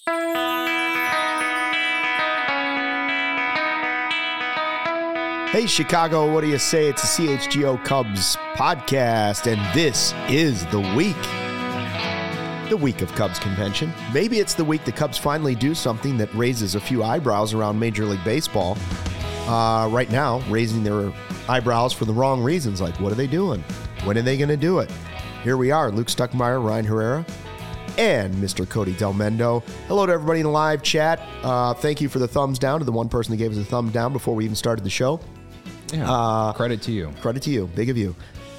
Hey, Chicago, what do you say? It's a CHGO Cubs podcast, and this is the week of Cubs convention. Maybe it's the week the Cubs finally do something that raises a few eyebrows around Major League Baseball. Right now, raising their eyebrows for the wrong reasons, like what are they doing? When are they going to do it? Here we are, Luke Stuckmeyer, Ryan Herrera, and Mr. Cody Del Mendo. Hello to everybody in the live chat. Thank you for the thumbs down to the one person that gave us a thumbs down before we even started the show. Yeah, credit to you. Credit to you. Big of you.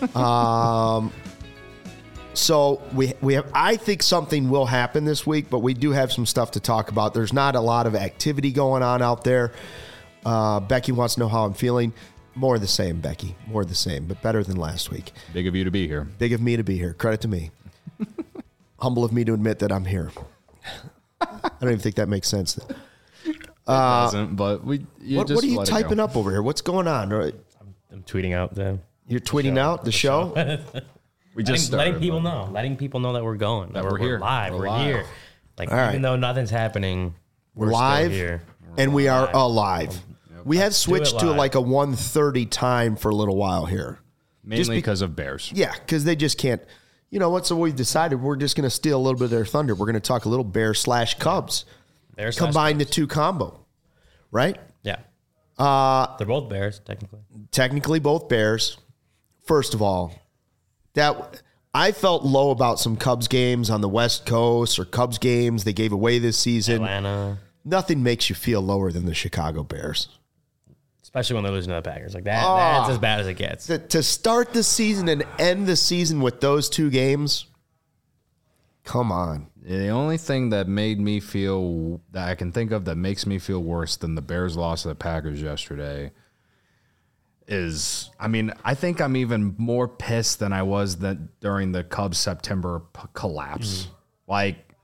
So we have. I think something will happen this week, but we do have some stuff to talk about. There's not a lot of activity going on out there. Becky wants to know how I'm feeling. More of the same, Becky. More of the same, but better than last week. Big of you to be here. Big of me to be here. Credit to me. Humble of me to admit that I'm here. I don't even think that makes sense. It doesn't, but what are you typing up over here? What's going on? I'm tweeting out You're tweeting out the show? We just letting people know that we're going, that we're here live. We're here. Like all even though nothing's happening, we're live still here. And we are alive. We have switched to like a 1:30 time for a little while here. Mainly because of Bears. Yeah, because they just can't. You know what? So we've decided we're just going to steal a little bit of their thunder. We're going to talk a little Bears/Cubs. Combine the two combo, right? Yeah. They're both Bears, technically. Technically both Bears. First of all, that I felt low about some Cubs games on the West Coast or Cubs games they gave away this season. Atlanta. Nothing makes you feel lower than the Chicago Bears. Especially when they're losing to the Packers. Like that's as bad as it gets. To start the season and end the season with those two games, come on. The only thing that made me feel, that I can think of that makes me feel worse than the Bears loss to the Packers yesterday is, I think I'm even more pissed than I was during the Cubs September collapse. Like,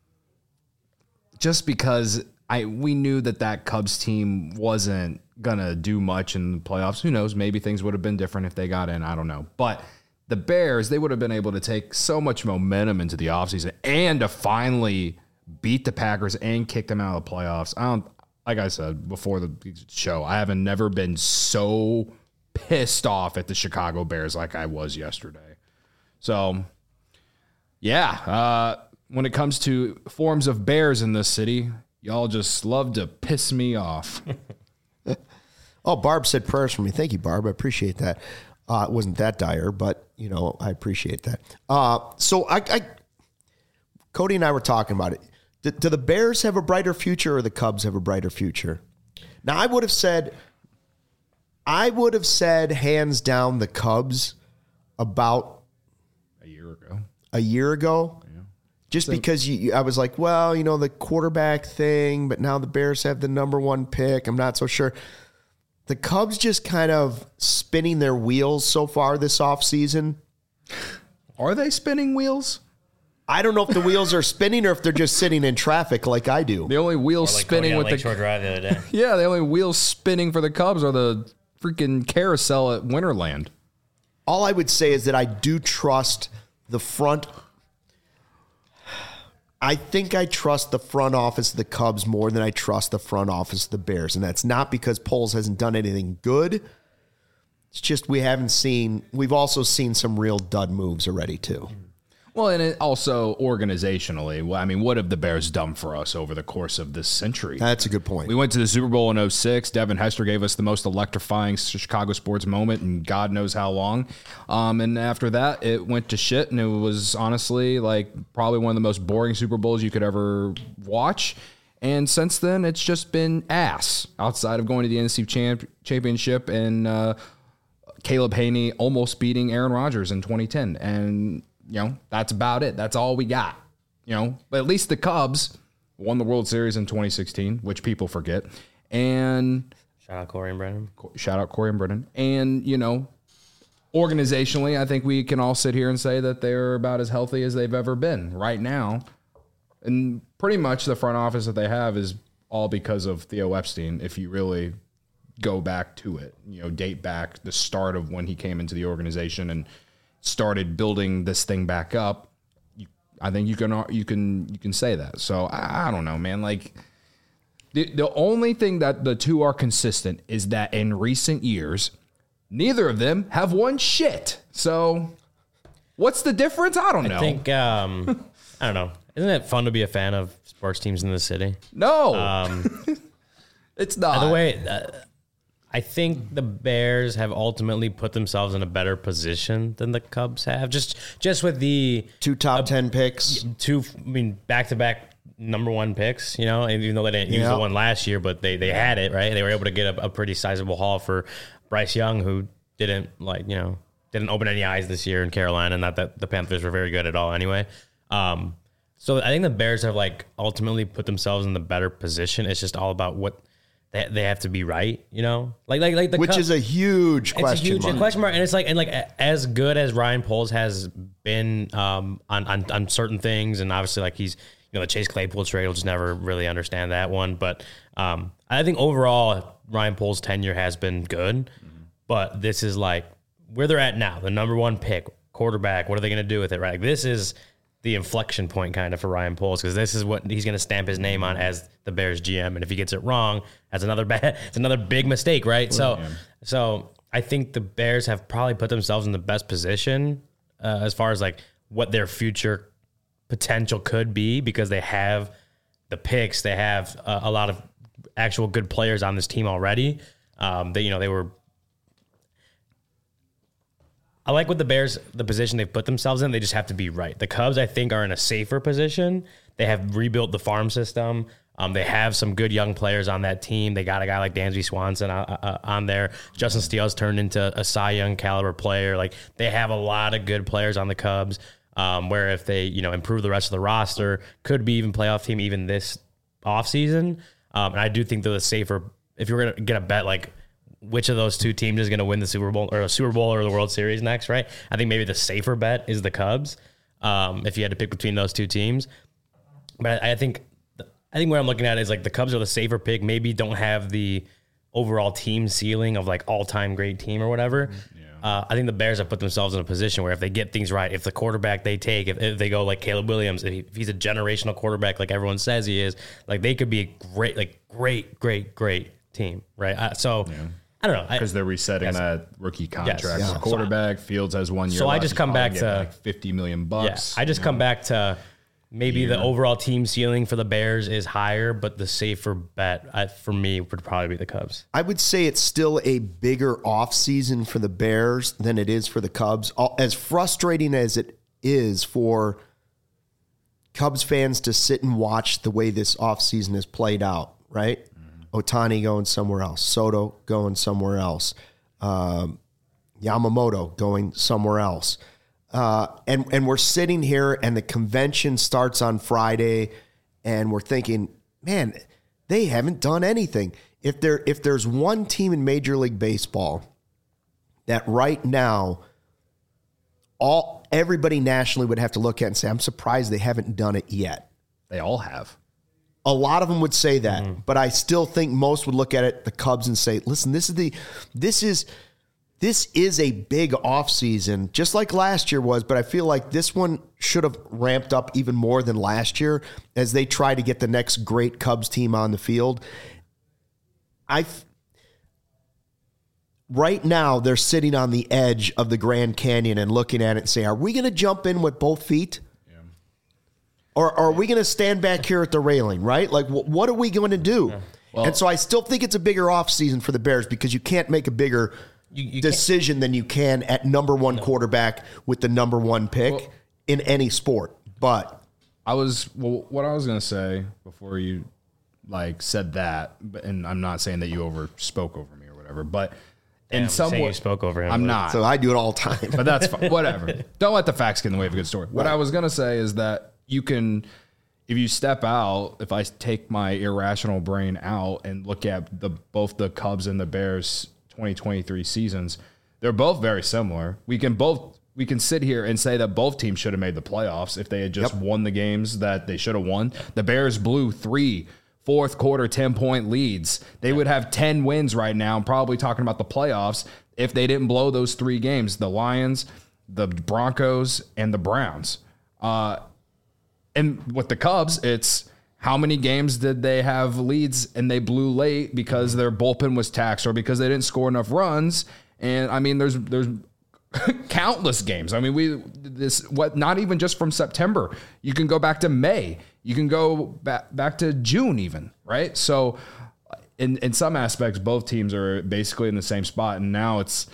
just because we knew that Cubs team wasn't going to do much in the playoffs. Who knows? Maybe things would have been different if they got in. I don't know. But the Bears, they would have been able to take so much momentum into the offseason and to finally beat the Packers and kick them out of the playoffs. Like I said before the show, I haven't never been so pissed off at the Chicago Bears like I was yesterday. So, yeah, when it comes to forms of Bears in this city, y'all just love to piss me off. Oh, Barb said prayers for me. Thank you, Barb. I appreciate that. It wasn't that dire, but, I appreciate that. So Cody and I were talking about it. Do the Bears have a brighter future or the Cubs have a brighter future? Now, I would have said hands down the Cubs about a year ago. Yeah. Just because I was like, well, the quarterback thing, but now the Bears have the number one pick. I'm not so sure. The Cubs just kind of spinning their wheels so far this offseason. Are they spinning wheels? I don't know if the wheels are spinning or if they're just sitting in traffic like I do. The only wheels spinning with Lakeshore Drive the other day. Yeah, the only wheels spinning for the Cubs are the freaking carousel at Winterland. All I would say is that I do trust the front. I think I trust the front office of the Cubs more than I trust the front office of the Bears. And that's not because Poles hasn't done anything good. It's just we've also seen some real dud moves already too. Well, and it also organizationally, what have the Bears done for us over the course of this century? That's a good point. We went to the Super Bowl in 2006. Devin Hester gave us the most electrifying Chicago sports moment in God knows how long. And after that, it went to shit, and it was honestly probably one of the most boring Super Bowls you could ever watch. And since then, it's just been ass outside of going to the NFC Championship and Caleb Haney almost beating Aaron Rodgers in 2010. And that's about it. That's all we got. But at least the Cubs won the World Series in 2016, which people forget. And shout out Corey and Brennan. And, organizationally, I think we can all sit here and say that they're about as healthy as they've ever been right now. And pretty much the front office that they have is all because of Theo Epstein, if you really go back to it, date back the start of when he came into the organization and started building this thing back up. I think you can say that. So I don't know, man. Like the only thing that the two are consistent is that in recent years, neither of them have won shit. So what's the difference? I don't know. I think I don't know. Isn't it fun to be a fan of sports teams in the city? No, it's not. By the way, I think the Bears have ultimately put themselves in a better position than the Cubs have. Just with the 2 top 10 picks, back-to-back number 1 picks. You know, and even though they didn't use the one last year, but they had it right. They were able to get a pretty sizable haul for Bryce Young, who didn't open any eyes this year in Carolina. Not that the Panthers were very good at all, anyway. So I think the Bears have ultimately put themselves in the better position. It's just all about what they have to be right, you know, which is a huge question mark. And it's as good as Ryan Poles has been on certain things, and obviously he's the Chase Claypool trade, we'll just never really understand that one. But I think overall Ryan Poles' tenure has been good, but this is where they're at now, the number 1 pick, quarterback. What are they going to do with it? Right, this is the inflection point kind of for Ryan Poles, because this is what he's going to stamp his name on as the Bears GM. And if he gets it wrong, it's another big mistake, right? So I think the Bears have probably put themselves in the best position as far as what their future potential could be, because they have the picks, they have a lot of actual good players on this team already. I like what the Bears, the position they've put themselves in. They just have to be right. The Cubs, I think, are in a safer position. They have rebuilt the farm system. They have some good young players on that team. They got a guy like Dansby Swanson on there. Justin Steele's turned into a Cy Young caliber player. They have a lot of good players on the Cubs, where if they improve the rest of the roster, could be even playoff team even this offseason. And I do think they're the safer. If you're going to get a bet which of those two teams is going to win the Super Bowl or the World Series next, right? I think maybe the safer bet is the Cubs, if you had to pick between those two teams. But I think what I'm looking at is the Cubs are the safer pick. Maybe don't have the overall team ceiling of all-time great team or whatever. I think the Bears have put themselves in a position where if they get things right, if the quarterback they take, if they go Caleb Williams, if he's a generational quarterback like everyone says he is, they could be a great team, right? I don't know. Because they're resetting that rookie contract. Yes. Yeah. Quarterback, Fields has 1 year left. So I just come back to $50 million. Yeah, I just come back to maybe the overall team ceiling for the Bears is higher, but the safer bet for me would probably be the Cubs. I would say it's still a bigger offseason for the Bears than it is for the Cubs. As frustrating as it is for Cubs fans to sit and watch the way this offseason has played out, right? Ohtani going somewhere else, Soto going somewhere else, Yamamoto going somewhere else. And we're sitting here and the convention starts on Friday and we're thinking, man, they haven't done anything. If there's one team in Major League Baseball that right now everybody nationally would have to look at and say, I'm surprised they haven't done it yet. They all have. A lot of them would say that, but I still think most would look at it, the Cubs, and say, listen, this is a big offseason, just like last year was, but I feel like this one should have ramped up even more than last year as they try to get the next great Cubs team on the field. Right now, they're sitting on the edge of the Grand Canyon and looking at it and say, are we going to jump in with both feet? Or are we going to stand back here at the railing, right? What are we going to do? Well, and so I still think it's a bigger offseason for the Bears because you can't make a bigger decision than you can at number 1 quarterback with the number 1 pick in any sport. But what I was going to say before you said that, and I'm not saying that you spoke over me or whatever, but in some way you spoke over him. I'm not. So I do it all the time. But that's fine. Whatever. Don't let the facts get in the way of a good story. Right. What I was going to say is that you can, if you step out, if I take my irrational brain out and look at both the Cubs and the Bears 2023 seasons, they're both very similar. We can sit here and say that both teams should have made the playoffs if they had just won the games that they should have won. The Bears blew 3 fourth quarter 10-point leads. They would have 10 wins right now, probably talking about the playoffs, if they didn't blow those 3 games, the Lions, the Broncos, and the Browns. And with the Cubs, it's how many games did they have leads and they blew late because their bullpen was taxed or because they didn't score enough runs. And I mean, there's countless games. I mean, not even just from September. You can go back to May. You can go back to June even, right? So in some aspects, both teams are basically in the same spot. And now it's,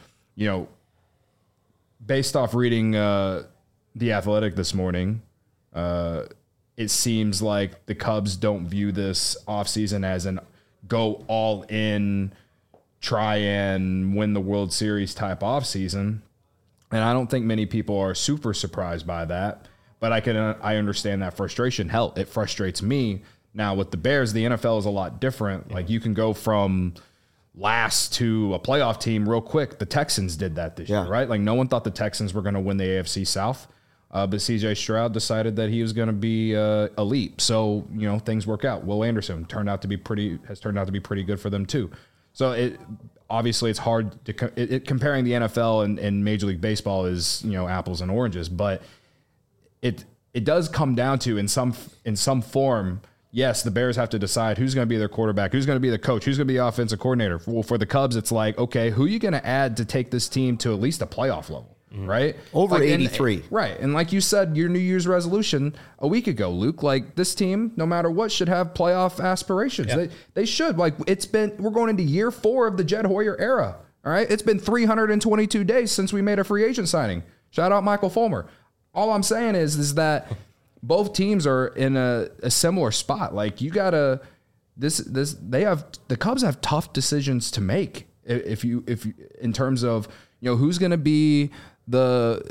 based off reading The Athletic this morning, it seems like the Cubs don't view this offseason as an go all in, try and win the World Series type offseason. And I don't think many people are super surprised by that, but I understand that frustration. Hell, it frustrates me. Now with the Bears, the NFL is a lot different. Yeah. Like you can go from last to a playoff team real quick. The Texans did that this year, right? Like no one thought the Texans were going to win the AFC South. But CJ Stroud decided that he was going to be elite. So, things work out. Will Anderson has turned out to be pretty good for them too. So obviously it's hard to comparing the NFL and Major League Baseball is, apples and oranges, but it does come down to in some form. Yes, the Bears have to decide who's going to be their quarterback, who's going to be the coach, who's going to be the offensive coordinator. Well, for the Cubs, it's like, okay, who are you going to add to take this team to at least a playoff level? Right? Over 83. Right. And like you said, your New Year's resolution a week ago, Luke, like this team, no matter what, should have playoff aspirations. Yep. They should. Like we're going into year 4 of the Jed Hoyer era. All right. It's been 322 days since we made a free agent signing. Shout out Michael Fulmer. All I'm saying is that both teams are in a similar spot. Like you gotta, the Cubs have tough decisions to make if you in terms of, who's going to be the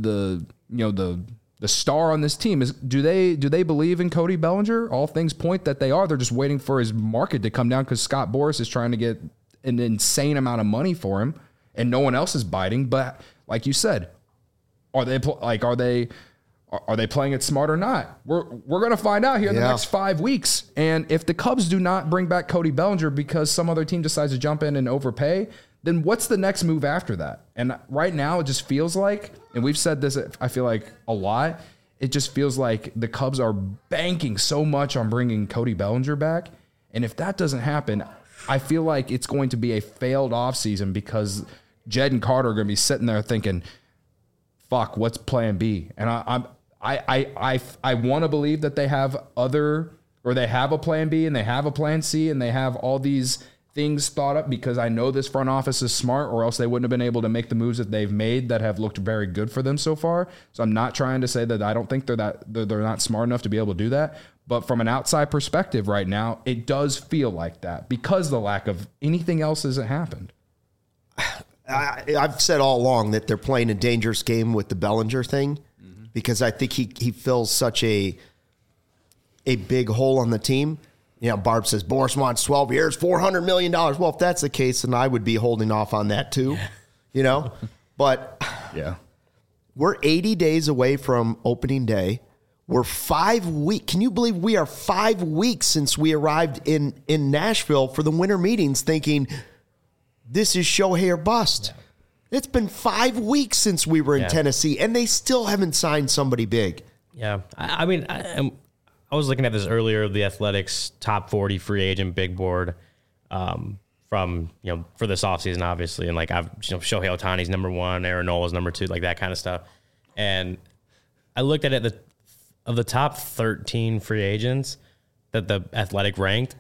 star on this team. Do they believe in Cody Bellinger? All things point that they are. They're just waiting for his market to come down because Scott Boras is trying to get an insane amount of money for him, and no one else is biting. But like you said, are they playing it smart or not? We're going to find out here in the next 5 weeks. And if the Cubs do not bring back Cody Bellinger because some other team decides to jump in and overpay, then what's the next move after that? And right now it just feels like, and we've said this, I feel like a lot, it just feels like the Cubs are banking so much on bringing Cody Bellinger back. And if that doesn't happen, I feel like it's going to be a failed offseason because Jed and Carter are going to be sitting there thinking, fuck, what's plan B? And I want to believe that they have they have a plan B and they have a plan C and they have all these things thought up because I know this front office is smart or else they wouldn't have been able to make the moves that they've made that have looked very good for them so far. So I'm not trying to say that I don't think they're not smart enough to be able to do that. But from an outside perspective right now, it does feel like that because the lack of anything else hasn't happened. I've said all along that they're playing a dangerous game with the Bellinger thing because I think he fills such a big hole on the team. Barb says Boras wants 12 years, $400 million. Well, if that's the case, then I would be holding off on that too, But we're 80 days away from opening day. We're 5 weeks. Can you believe we are 5 weeks since we arrived in Nashville for the winter meetings thinking this is Shohei or bust? Yeah. It's been 5 weeks since we were in Tennessee, and they still haven't signed somebody big. Yeah. I mean, I was looking at this earlier, the Athletics top 40 free agent big board from, for this offseason, obviously. And Shohei Ohtani's number 1, Aaron Nola's number 2, like that kind of stuff. And I looked at it, of the top 13 free agents that the Athletic ranked,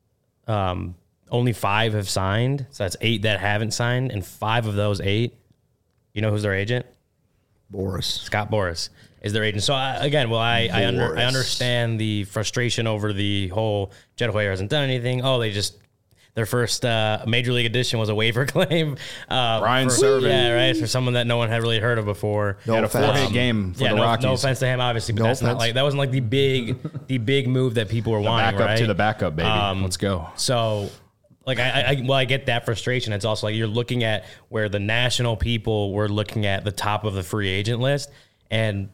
only 5 have signed. So that's 8 that haven't signed. And 5 of those 8, who's their agent? Boras. Scott Boras is their agent. So I understand the frustration over the whole Jed Hoyer hasn't done anything. Their first major league addition was a waiver claim. Brian Serven. Yeah, right. For someone that no one had really heard of before. He had a 4-hit game for the Rockies. No offense to him, obviously, but that wasn't like the big move that people were wanting. Back up right? to the backup, baby. Let's go. So, I get that frustration. It's also like you're looking at where the national people were looking at the top of the free agent list, and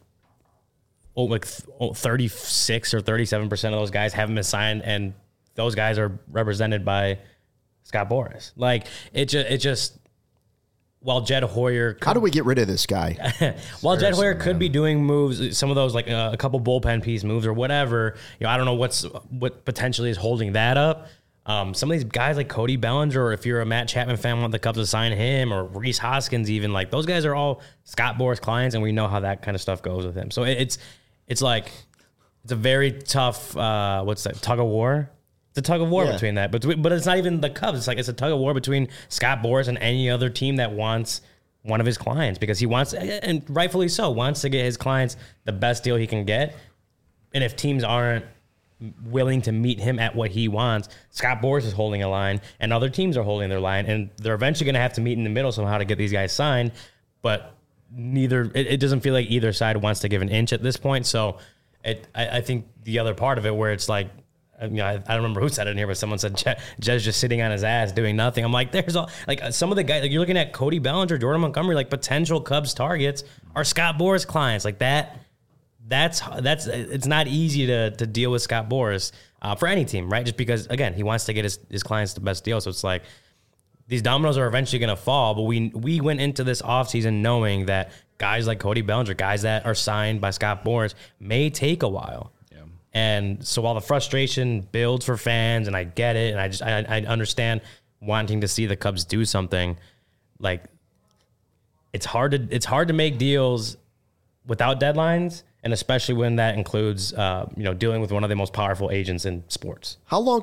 36 or 37% of those guys haven't been signed, and those guys are represented by Scott Boras. Like it just while Jed Hoyer, How do we get rid of this guy? while Jed Hoyer could be doing moves, some of those like a couple bullpen piece moves or whatever, I don't know what potentially is holding that up. Some of these guys like Cody Bellinger, or if you're a Matt Chapman fan, want the Cubs to sign him, or Rhys Hoskins, even like those guys are all Scott Boras clients, and we know how that kind of stuff goes with him. So it's like it's a very tough what's that, tug of war. It's a tug of war between that, but it's not even the Cubs. It's a tug of war between Scott Boras and any other team that wants one of his clients, because he wants, and rightfully so, wants to get his clients the best deal he can get. And if teams aren't willing to meet him at what he wants, Scott Boras is holding a line, and other teams are holding their line, and they're eventually going to have to meet in the middle somehow to get these guys signed. But it doesn't feel like either side wants to give an inch at this point. So I think the other part of it, where it's like, I don't remember who said it in here, but someone said Jed's just sitting on his ass doing nothing. I'm like, there's all like some of the guys, like you're looking at Cody Bellinger, Jordan Montgomery, like potential Cubs targets are Scott Boras clients. Like that's it's not easy to deal with Scott Boras for any team, right? Just because, again, he wants to get his clients the best deal. So it's like these dominoes are eventually going to fall. But we went into this offseason knowing that guys like Cody Bellinger, guys that are signed by Scott Boras, may take a while. And so while the frustration builds for fans, and I get it, and I understand wanting to see the Cubs do something, like it's hard to make deals without deadlines, and especially when that includes dealing with one of the most powerful agents in sports. How long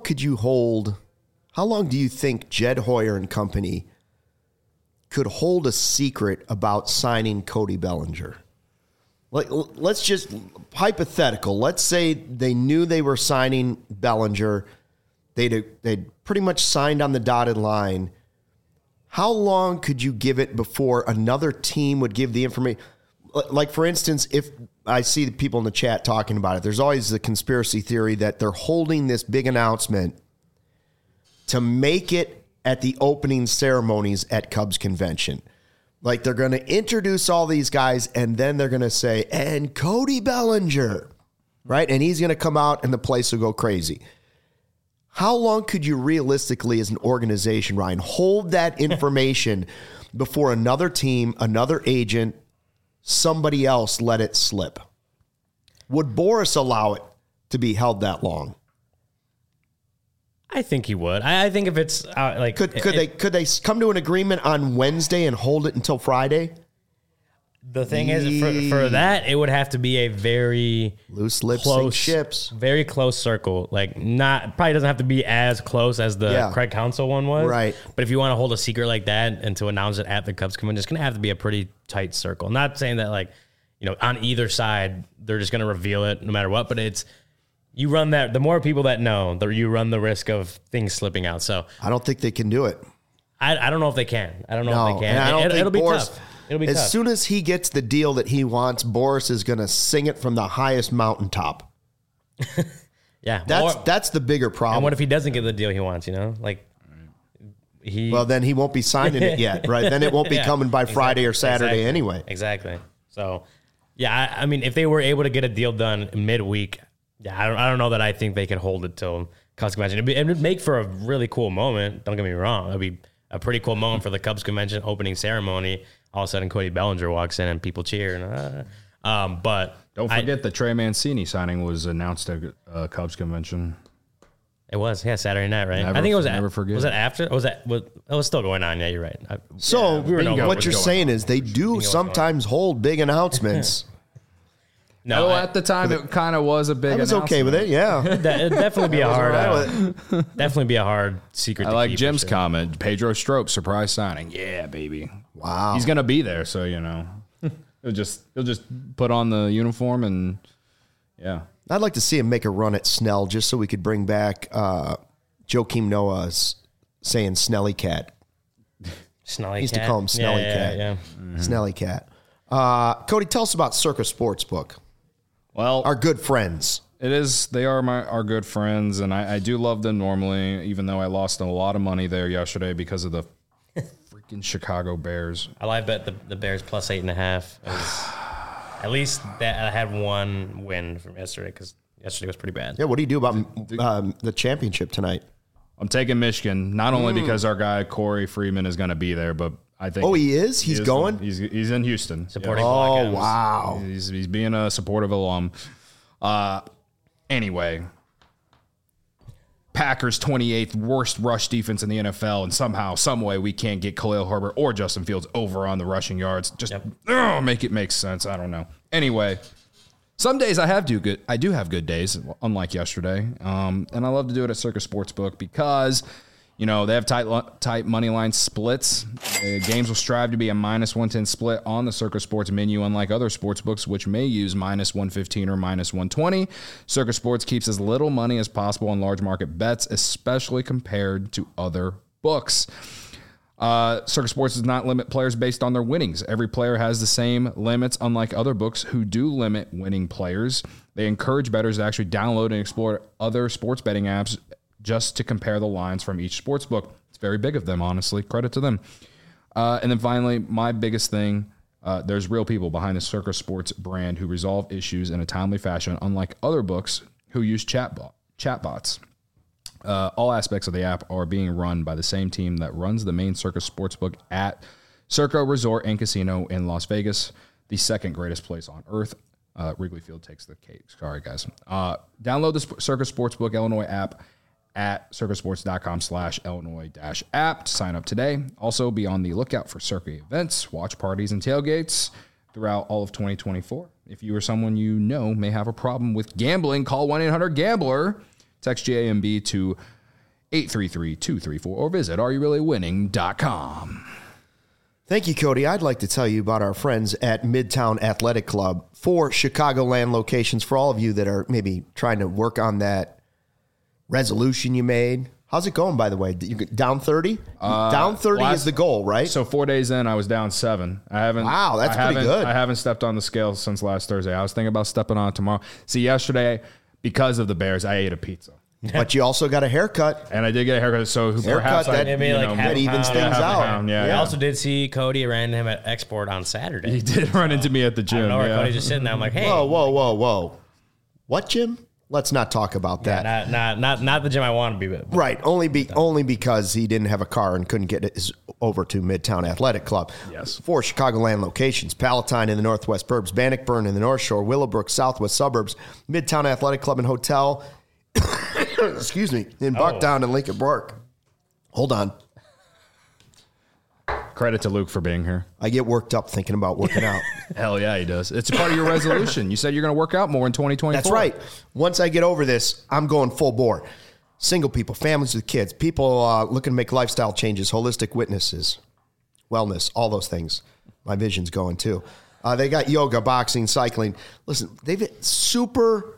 do you think Jed Hoyer and company could hold a secret about signing Cody Bellinger? Like, let's just hypothetical. Let's say they knew they were signing Bellinger. They'd pretty much signed on the dotted line. How long could you give it before another team would give the information? Like, for instance, if I see the people in the chat talking about it, there's always the conspiracy theory that they're holding this big announcement to make it at the opening ceremonies at Cubs convention. Like, they're going to introduce all these guys, and then they're going to say, and Cody Bellinger, right? And he's going to come out, and the place will go crazy. How long could you realistically, as an organization, Ryan, hold that information before another team, another agent, somebody else let it slip? Would Boras allow it to be held that long? I think he would. I think if it's like, could they come to an agreement on Wednesday and hold it until Friday? The thing is, for that, it would have to be a very loose lips sink ships, very close circle. Like, probably doesn't have to be as close as the Craig Counsell one was, right? But if you want to hold a secret like that and to announce it at the Cubs convention, it's going to have to be a pretty tight circle. Not saying that, like, on either side they're just going to reveal it no matter what, but it's. You run that. The more people that know, you run the risk of things slipping out. So I don't think they can do it. I don't know if they can. I don't know if they can. It'll be tough. It'll be tough. As soon as he gets the deal that he wants, Boras is going to sing it from the highest mountaintop. Yeah, that's the bigger problem. And what if he doesn't get the deal he wants? Well, then he won't be signing it yet, right? Then it won't be coming by Friday or Saturday anyway. Exactly. So, yeah, I mean, if they were able to get a deal done midweek. Yeah, I don't know that I think they could hold it till Cubs convention. It would make for a really cool moment. Don't get me wrong. It would be a pretty cool moment for the Cubs convention opening ceremony. All of a sudden, Cody Bellinger walks in and people cheer. But don't forget the Trey Mancini signing was announced at Cubs convention. It was, Saturday night, right? I think it was. Never forget. Was it after? Or it was still going on. Yeah, you're right. What you're saying is they do sometimes hold big announcements. No, at the time it kind of was a big. I was okay with it. Yeah, it'd definitely be a hard secret. I like Jim's comment. Pedro Strop surprise signing. Yeah, baby. Wow, he's gonna be there, so he'll just put on the uniform and yeah. I'd like to see him make a run at Snell just so we could bring back Joakim Noah's saying Snelly Cat. Snelly he used to call him Snelly Cat. Yeah. Mm-hmm. Snelly Cat. Cody, tell us about Circa Sportsbook. Well, our good friends. It is. They are our good friends, and I do love them normally, even though I lost a lot of money there yesterday because of the freaking Chicago Bears. I live bet the Bears plus 8.5. At least that I had one win from yesterday because yesterday was pretty bad. Yeah, what do you do about the championship tonight? I'm taking Michigan, not only because our guy Corey Freeman is going to be there, but I think. Oh, he is? He's going? He's in Houston. Supporting Oh, Black M's. wow. He's being a supportive alum. Anyway, Packers 28th worst rush defense in the NFL, and somehow, some way, we can't get Khalil Herbert or Justin Fields over on the rushing yards. Just make it make sense. I don't know. Anyway, some days I do have good days, unlike yesterday. And I love to do it at Circus Sportsbook because, you know, they have tight money line splits. Games will strive to be a minus 110 split on the Circus Sports menu, unlike other sports books, which may use minus 115 or minus 120. Circus Sports keeps as little money as possible on large market bets, especially compared to other books. Circus Sports does not limit players based on their winnings. Every player has the same limits, unlike other books who do limit winning players. They encourage bettors to actually download and explore other sports betting apps just to compare the lines from each sports book. It's very big of them, honestly. Credit to them. And then finally, my biggest thing, there's real people behind the Circus Sports brand who resolve issues in a timely fashion, unlike other books who use chatbots. All aspects of the app are being run by the same team that runs the main Circus Sportsbook at Circo Resort and Casino in Las Vegas, the second greatest place on earth. Wrigley Field takes the cake. Sorry, guys. Download the Circus Sportsbook Illinois app at circusports.com/Illinois-app to sign up today. Also, be on the lookout for Circa events, watch parties, and tailgates throughout all of 2024. If you or someone you know may have a problem with gambling, call 1-800-GAMBLER. Text JAMB to 833-234 or visit areyoureallywinning.com. Thank you, Cody. I'd like to tell you about our friends at Midtown Athletic Club. 4 Chicagoland locations for all of you that are maybe trying to work on that resolution you made. How's it going, by the way? You down 30? Down 30 is the goal, right? So 4 days in, I was down 7. Wow, that's pretty good. I haven't stepped on the scale since last Thursday. I was thinking about stepping on it tomorrow. See, yesterday, because of the Bears, I ate a pizza. But you also got a haircut. And I did get a haircut, so perhaps that evens things out. I also did see Cody. Ran into him at Export on Saturday. He did run into me at the gym. Cody's just sitting there. I'm like, hey. Whoa. What gym? Let's not talk about that. Yeah, not the gym I want to be with. Right. Only because he didn't have a car and couldn't get over to Midtown Athletic Club. Yes. 4 Chicagoland locations: Palatine in the Northwest Burbs, Bannockburn in the North Shore, Willowbrook, Southwest Suburbs, Midtown Athletic Club and Hotel, excuse me, in Bucktown and Lincoln Park. Hold on. Credit to Luke for being here. I get worked up thinking about working out. Hell yeah, he does. It's part of your resolution. You said you're going to work out more in 2024. That's right. Once I get over this, I'm going full bore. Single people, families with kids, people looking to make lifestyle changes, holistic witnesses, wellness, all those things. My vision's going too. They got yoga, boxing, cycling. Listen, they've got super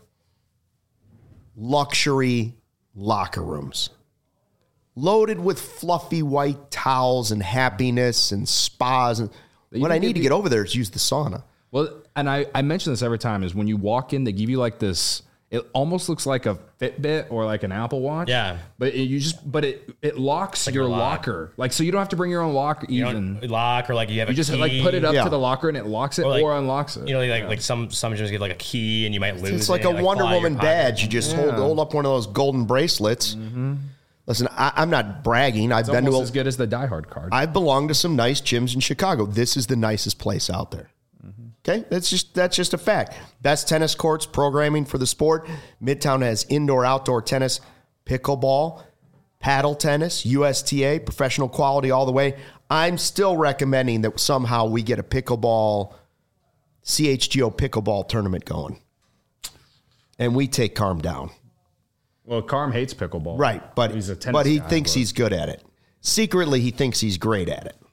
luxury locker rooms, loaded with fluffy white towels and happiness and spas. And what I need to get over there is use the sauna. Well, and I mention this every time, is when you walk in, they give you like this, it almost looks like a Fitbit or like an Apple Watch. Yeah. But it locks like your locker. Like, so you don't have to bring your own locker even. Lock, or like you have just key. like put it up to the locker and it locks it or unlocks it. You know, like some gyms get like a key and you might lose it. It's like a Wonder Woman badge. You just hold up one of those golden bracelets. Mm-hmm. Listen, I'm not bragging. I've been to as good as the Die Hard card. I've belonged to some nice gyms in Chicago. This is the nicest place out there. Mm-hmm. Okay, that's just a fact. Best tennis courts, programming for the sport. Midtown has indoor, outdoor tennis, pickleball, paddle tennis, USTA, professional quality all the way. I'm still recommending that somehow we get a pickleball, CHGO pickleball tournament going, and we take Carm down. Well, Carm hates pickleball. Right, but he thinks he's good at it. Secretly, he thinks he's great at it.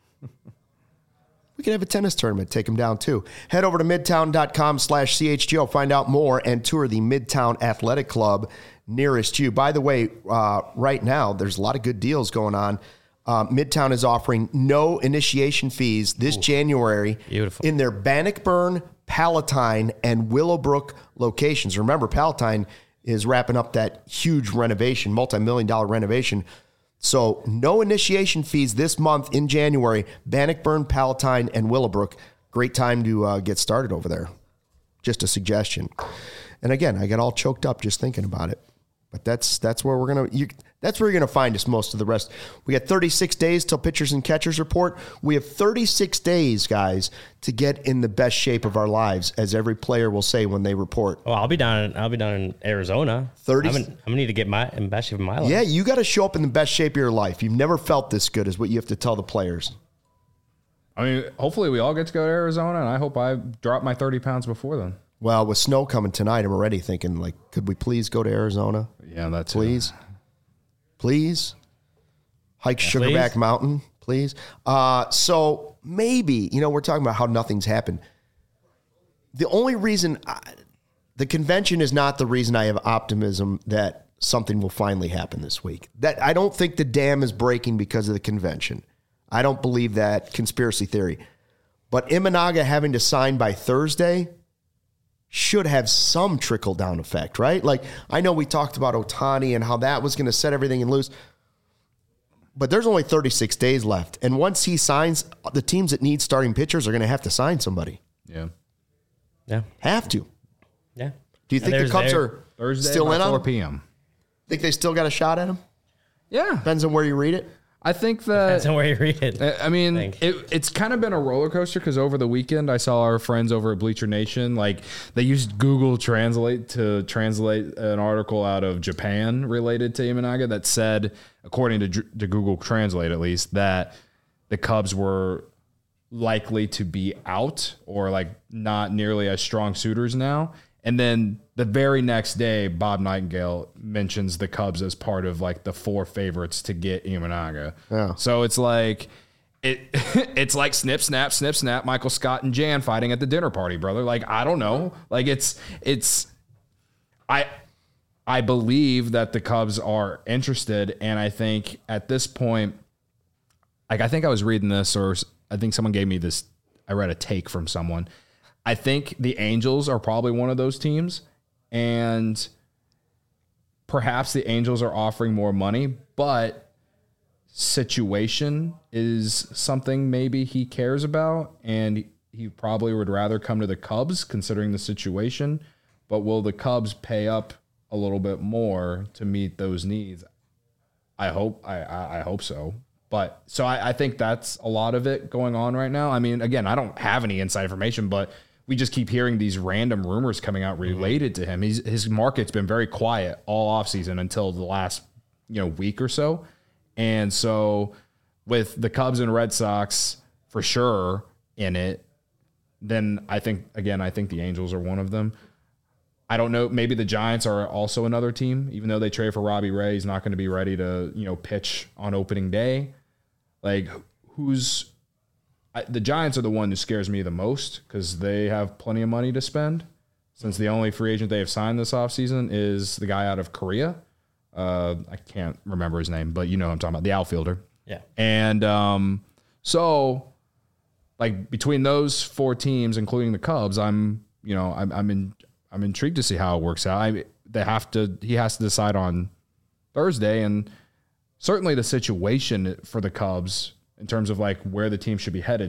We can have a tennis tournament, take him down too. Head over to midtown.com/CHGO, find out more, and tour the Midtown Athletic Club nearest you. By the way, right now, there's a lot of good deals going on. Midtown is offering no initiation fees this January in their Bannockburn, Palatine, and Willowbrook locations. Remember, Palatine is wrapping up that huge renovation, multi-million-dollar renovation. So no initiation fees this month in January. Bannockburn, Palatine, and Willowbrook. Great time to get started over there. Just a suggestion. And again, I got all choked up just thinking about it. But that's where we're gonna. That's where you're gonna find us most of the rest. We got 36 days till pitchers and catchers report. We have 36 days, guys, to get in the best shape of our lives, as every player will say when they report. Well, I'll be down in Arizona. 30. I'm gonna need to get in best shape of my life. Yeah, you got to show up in the best shape of your life. You've never felt this good, is what you have to tell the players. I mean, hopefully we all get to go to Arizona, and I hope I drop my 30 pounds before then. Well, with snow coming tonight, I'm already thinking, like, could we please go to Arizona? Yeah, that's please. Please. Hike Sugarback Mountain, please. So maybe, we're talking about how nothing's happened. The only reason, the convention is not the reason I have optimism that something will finally happen this week. That I don't think the dam is breaking because of the convention. I don't believe that conspiracy theory. But Imanaga having to sign by Thursday should have some trickle-down effect, right? Like, I know we talked about Ohtani and how that was going to set everything in loose, but there's only 36 days left. And once he signs, the teams that need starting pitchers are going to have to sign somebody. Yeah. Yeah. Have to. Yeah. Do you think the Cubs are Thursday still in on 4 him? p.m.? Think they still got a shot at him? Yeah. Depends on where you read it. I think that... Depends on where you read it. I mean, it's kind of been a roller coaster because over the weekend, I saw our friends over at Bleacher Nation, like, they used Google Translate to translate an article out of Japan related to Imanaga that said, according to Google Translate at least, that the Cubs were likely to be out or, like, not nearly as strong suitors now. And then the very next day, Bob Nightingale mentions the Cubs as part of, like, the 4 favorites to get Imanaga. Yeah. So it's like it's like snip, snap, Michael Scott and Jan fighting at the dinner party, brother. Like, I don't know. Like, I believe that the Cubs are interested, and I think at this point, like, I think I was reading this, or I think someone gave me this. I read a take from someone. I think the Angels are probably one of those teams, and perhaps the Angels are offering more money, but situation is something maybe he cares about, and he probably would rather come to the Cubs considering the situation. But will the Cubs pay up a little bit more to meet those needs? I hope so. But so I think that's a lot of it going on right now. I mean, again, I don't have any inside information, but we just keep hearing these random rumors coming out related to him. His market's been very quiet all offseason until the last week or so. And so with the Cubs and Red Sox for sure in it, then I think the Angels are one of them. I don't know. Maybe the Giants are also another team, even though they traded for Robbie Ray. He's not going to be ready to, pitch on opening day. Like, the Giants are the one who scares me the most because they have plenty of money to spend, since the only free agent they have signed this offseason is the guy out of Korea. I can't remember his name, but you know what I'm talking about, the outfielder. Yeah. And so, like, between those 4 teams, including the Cubs, I'm intrigued to see how it works out. He has to decide on Thursday, and certainly the situation for the Cubs in terms of, like, where the team should be headed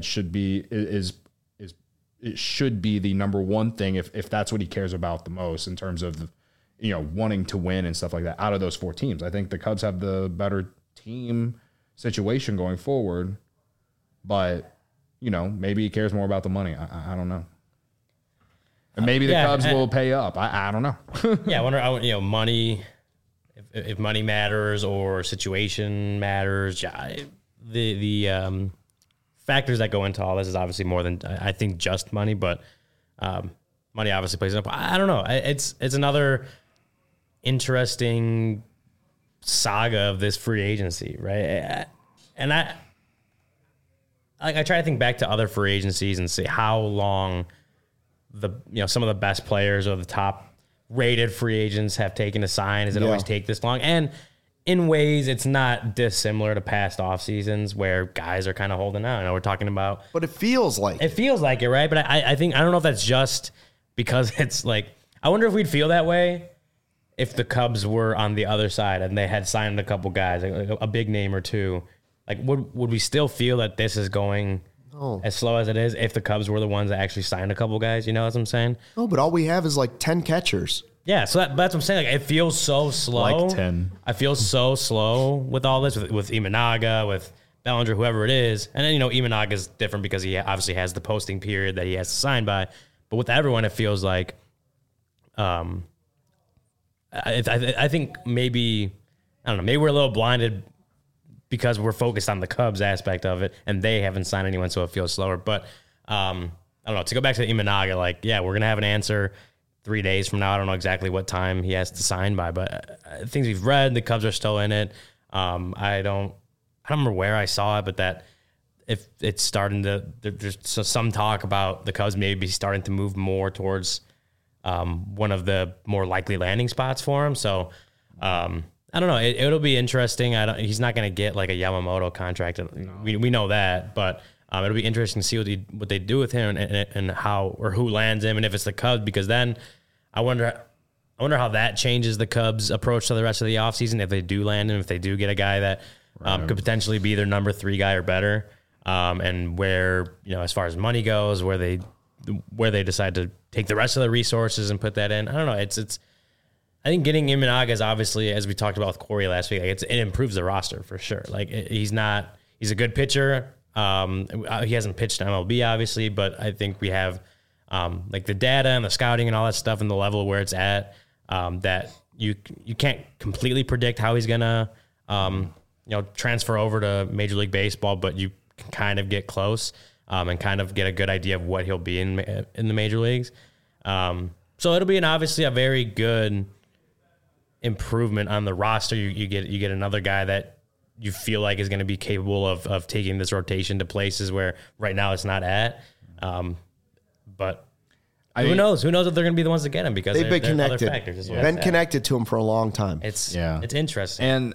it should be the number one thing if that's what he cares about the most in terms of wanting to win and stuff like that. Out of those 4 teams, I think the Cubs have the better team situation going forward, but maybe he cares more about the money. I don't know. And maybe the Cubs will pay up. I don't know. Yeah, I wonder, money, if money matters or situation matters. The factors that go into all this is obviously more than, I think, just money, but money obviously plays up. I don't know. It's another interesting saga of this free agency, right? And I try to think back to other free agencies and see how long some of the best players or the top rated free agents have taken to sign. Does it always take this long? And in ways, it's not dissimilar to past off seasons where guys are kind of holding out. I know we're talking about, but it feels like it, right? But I don't know if that's just because it's like, I wonder if we'd feel that way if the Cubs were on the other side and they had signed a couple guys, like a big name or two. Like, would we still feel that this is going as slow as it is if the Cubs were the ones that actually signed a couple guys? You know what I'm saying? No, but all we have is like 10 catchers. Yeah, so that's what I'm saying. Like, it feels so slow. Like 10. I feel so slow with all this, with Imanaga, with Bellinger, whoever it is. And then, Imanaga is different because he obviously has the posting period that he has to sign by. But with everyone, it feels like, I think maybe, I don't know, maybe we're a little blinded because we're focused on the Cubs aspect of it, and they haven't signed anyone, so it feels slower. But I don't know. To go back to Imanaga, like, yeah, we're gonna have an answer 3 days from now. I don't know exactly what time he has to sign by, but things we've read, the Cubs are still in it. I don't remember where I saw it, but that if it's starting to, there's some talk about the Cubs maybe starting to move more towards one of the more likely landing spots for him. So I don't know. It'll be interesting. He's not going to get like a Yamamoto contract. We know that, but it'll be interesting to see what they do with him and how or who lands him, and if it's the Cubs, because then I wonder how that changes the Cubs' approach to the rest of the offseason if they do land him, if they do get a guy that could potentially be their number 3 guy or better, and where, as far as money goes, where they decide to take the rest of the resources and put that in. I don't know. It's. I think getting Imanaga is obviously, as we talked about with Corey last week, it improves the roster for sure. Like, he's a good pitcher. He hasn't pitched MLB obviously, but I think we have like the data and the scouting and all that stuff and the level where it's at, that you can't completely predict how he's gonna transfer over to Major League Baseball, but you can kind of get close and kind of get a good idea of what he'll be in the major leagues. So it'll be obviously a very good improvement on the roster. You get another guy that you feel like is going to be capable of taking this rotation to places where right now it's not at. But who knows? Who knows if they're going to be the ones to get him, because they've been connected. Other factors Been connected to him for a long time. It's interesting. And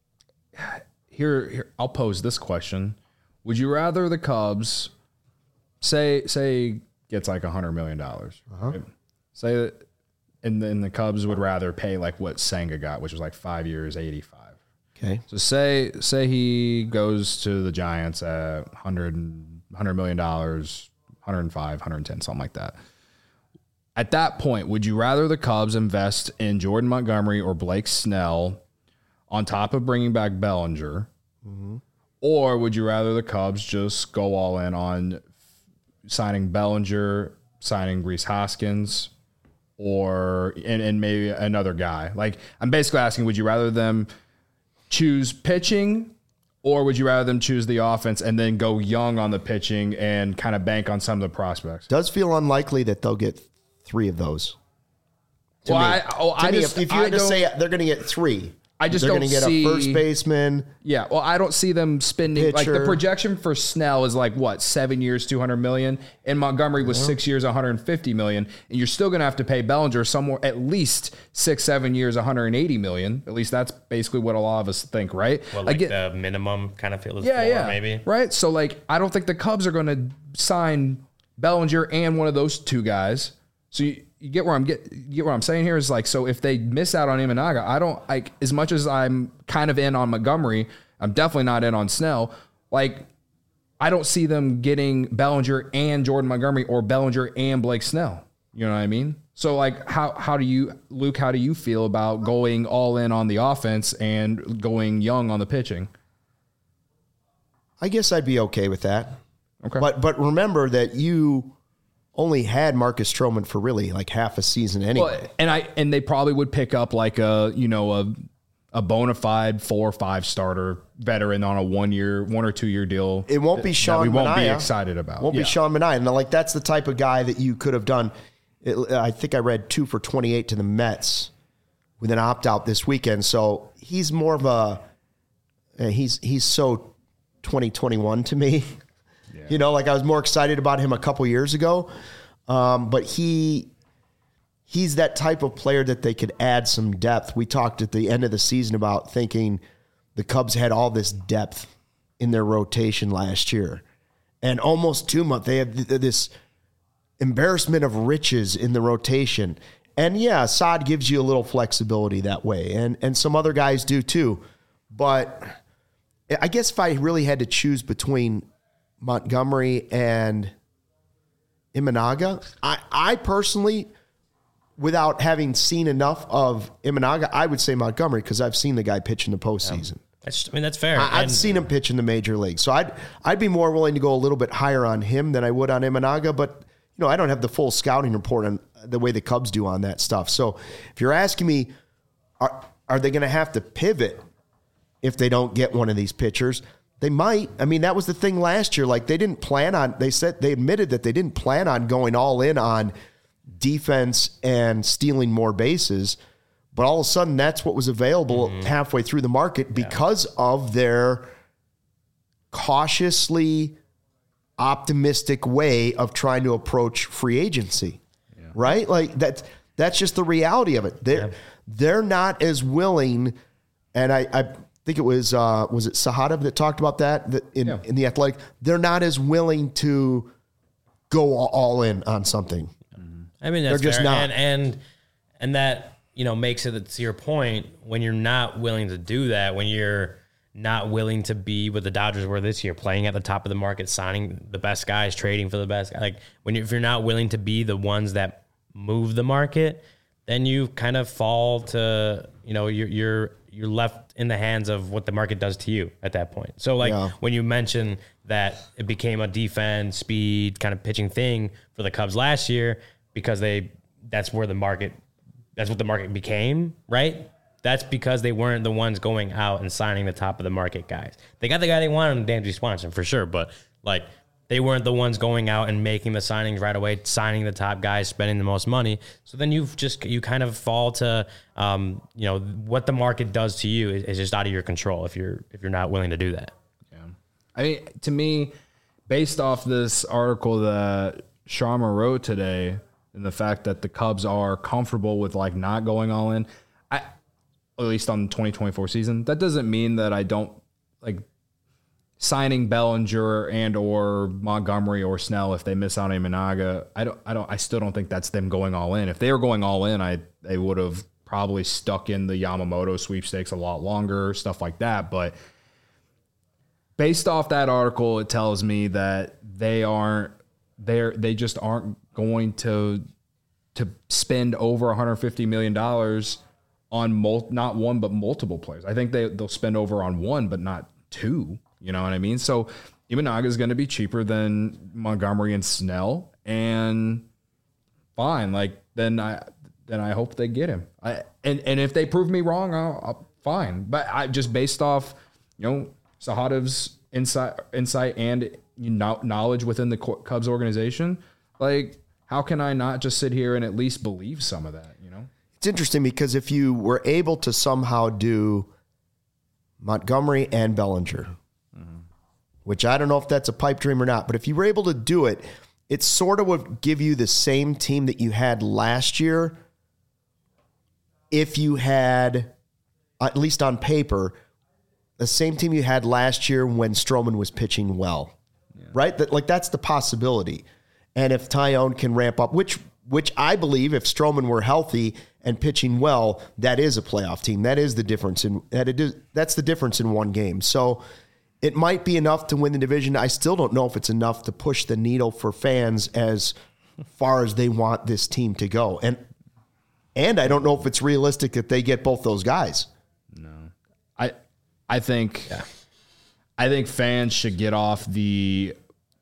here I'll pose this question: would you rather the Cubs say gets like $100 million? Right? Say that, and then the Cubs would rather pay like what Senga got, which was like 5 years, 85. Okay. So say he goes to the Giants at $100 million, 105, 110, something like that. At that point, would you rather the Cubs invest in Jordan Montgomery or Blake Snell on top of bringing back Bellinger? Mm-hmm. Or would you rather the Cubs just go all in on signing Bellinger, signing Rhys Hoskins, and maybe another guy? Like, I'm basically asking, would you rather them choose pitching, or would you rather them choose the offense and then go young on the pitching and kind of bank on some of the prospects? Does feel unlikely that they'll get 3 of those. To me, if you had to say they're going to get 3, I just they're don't going to get see a first baseman. Yeah, well, I don't see them spending pitcher. Like the projection for Snell is like what, 7 years, $200 million, and Montgomery was 6 years, $150 million, and you're still going to have to pay Bellinger somewhere at least 6-7 years, $180 million. At least that's basically what a lot of us think, right? Well, like the minimum kind of feels floor, maybe. Right. So like, I don't think the Cubs are going to sign Bellinger and one of those 2 guys. So you get where I'm saying here is like, so if they miss out on Imanaga, I don't like, as much as I'm kind of in on Montgomery, I'm definitely not in on Snell. Like, I don't see them getting Bellinger and Jordan Montgomery or Bellinger and Blake Snell. You know what I mean? So like, how do you feel about going all in on the offense and going young on the pitching? I guess I'd be okay with that. Okay. But remember that you only had Marcus Stroman for really like half a season anyway. Well, and they probably would pick up like a bona fide 4 or 5 starter veteran on a 1 or 2 year deal. It won't be Sean Manaea. We won't be excited about. Won't be Sean Manaea. And like, that's the type of guy that you could have done. I think I read 2 for 28 to the Mets with an opt out this weekend. So he's more of he's so 2021 to me. Yeah. Like I was more excited about him a couple years ago. But he's that type of player that they could add some depth. We talked at the end of the season about thinking the Cubs had all this depth in their rotation last year. And almost too much. They have this embarrassment of riches in the rotation. And yeah, Saad gives you a little flexibility that way. And some other guys do too. But I guess if I really had to choose between Montgomery and Imanaga, I personally without having seen enough of Imanaga, I would say Montgomery because I've seen the guy pitch in the postseason. That's fair. I've seen him pitch in the major league. So I'd be more willing to go a little bit higher on him than I would on Imanaga. But, I don't have the full scouting report on the way the Cubs do on that stuff. So if you're asking me, are they going to have to pivot if they don't get one of these pitchers? They might. I mean, that was the thing last year. Like, they admitted that they didn't plan on going all in on defense and stealing more bases. But all of a sudden, that's what was available halfway through the market because of their cautiously optimistic way of trying to approach free agency, right? Like that's just the reality of it. They're not as willing, and I think it was it Sahadev that talked about that in The Athletic. They're not as willing to go all in on something. I mean, that's they're just fair. not, and that makes it, to your point, when you're not willing to do that, when you're not willing to be what the Dodgers were this year, playing at the top of the market, signing the best guys, trading for the best guys. Like if you're not willing to be the ones that move the market, then you kind of fall to, you're left in the hands of what the market does to you at that point. So when you mention that it became a defense, speed kind of pitching thing for the Cubs last year, because that's what the market became, right? That's because they weren't the ones going out and signing the top of the market guys. They got the guy they wanted, Dansby Swanson, for sure, but they weren't the ones going out and making the signings right away, signing the top guys, spending the most money. So then you kind of fall to what the market does to you is just out of your control if you're not willing to do that. Yeah, I mean, to me, based off this article that Sharma wrote today, and the fact that the Cubs are comfortable with not going all in, at least on the 2024 season, that doesn't mean that I don't signing Bellinger and or Montgomery or Snell if they miss out on Imanaga. I still don't think that's them going all in. If they were going all in, they would have probably stuck in the Yamamoto sweepstakes a lot longer, stuff like that. But based off that article, it tells me that they just aren't going to spend over $150 million on not one but multiple players. I think they'll spend over on one but not two. You know what I mean? So Imanaga is going to be cheaper than Montgomery and Snell, and fine. Then I hope they get him. And if they prove me wrong, I'll fine. But I just based off Sahadev's insight and knowledge within the Cubs organization, how can I not just sit here and at least believe some of that? It's interesting because if you were able to somehow do Montgomery and Bellinger, which I don't know if that's a pipe dream or not, but if you were able to do it, it sort of would give you the same team that you had last year if you had, at least on paper, the same team you had last year when Stroman was pitching well, right? That's the possibility. And if Tyone can ramp up, which I believe if Stroman were healthy and pitching well, that is a playoff team. That is the difference that's the difference in one game. So it might be enough to win the division. I still don't know if it's enough to push the needle for fans as far as they want this team to go. And I don't know if it's realistic that they get both those guys. No. I think fans should get off the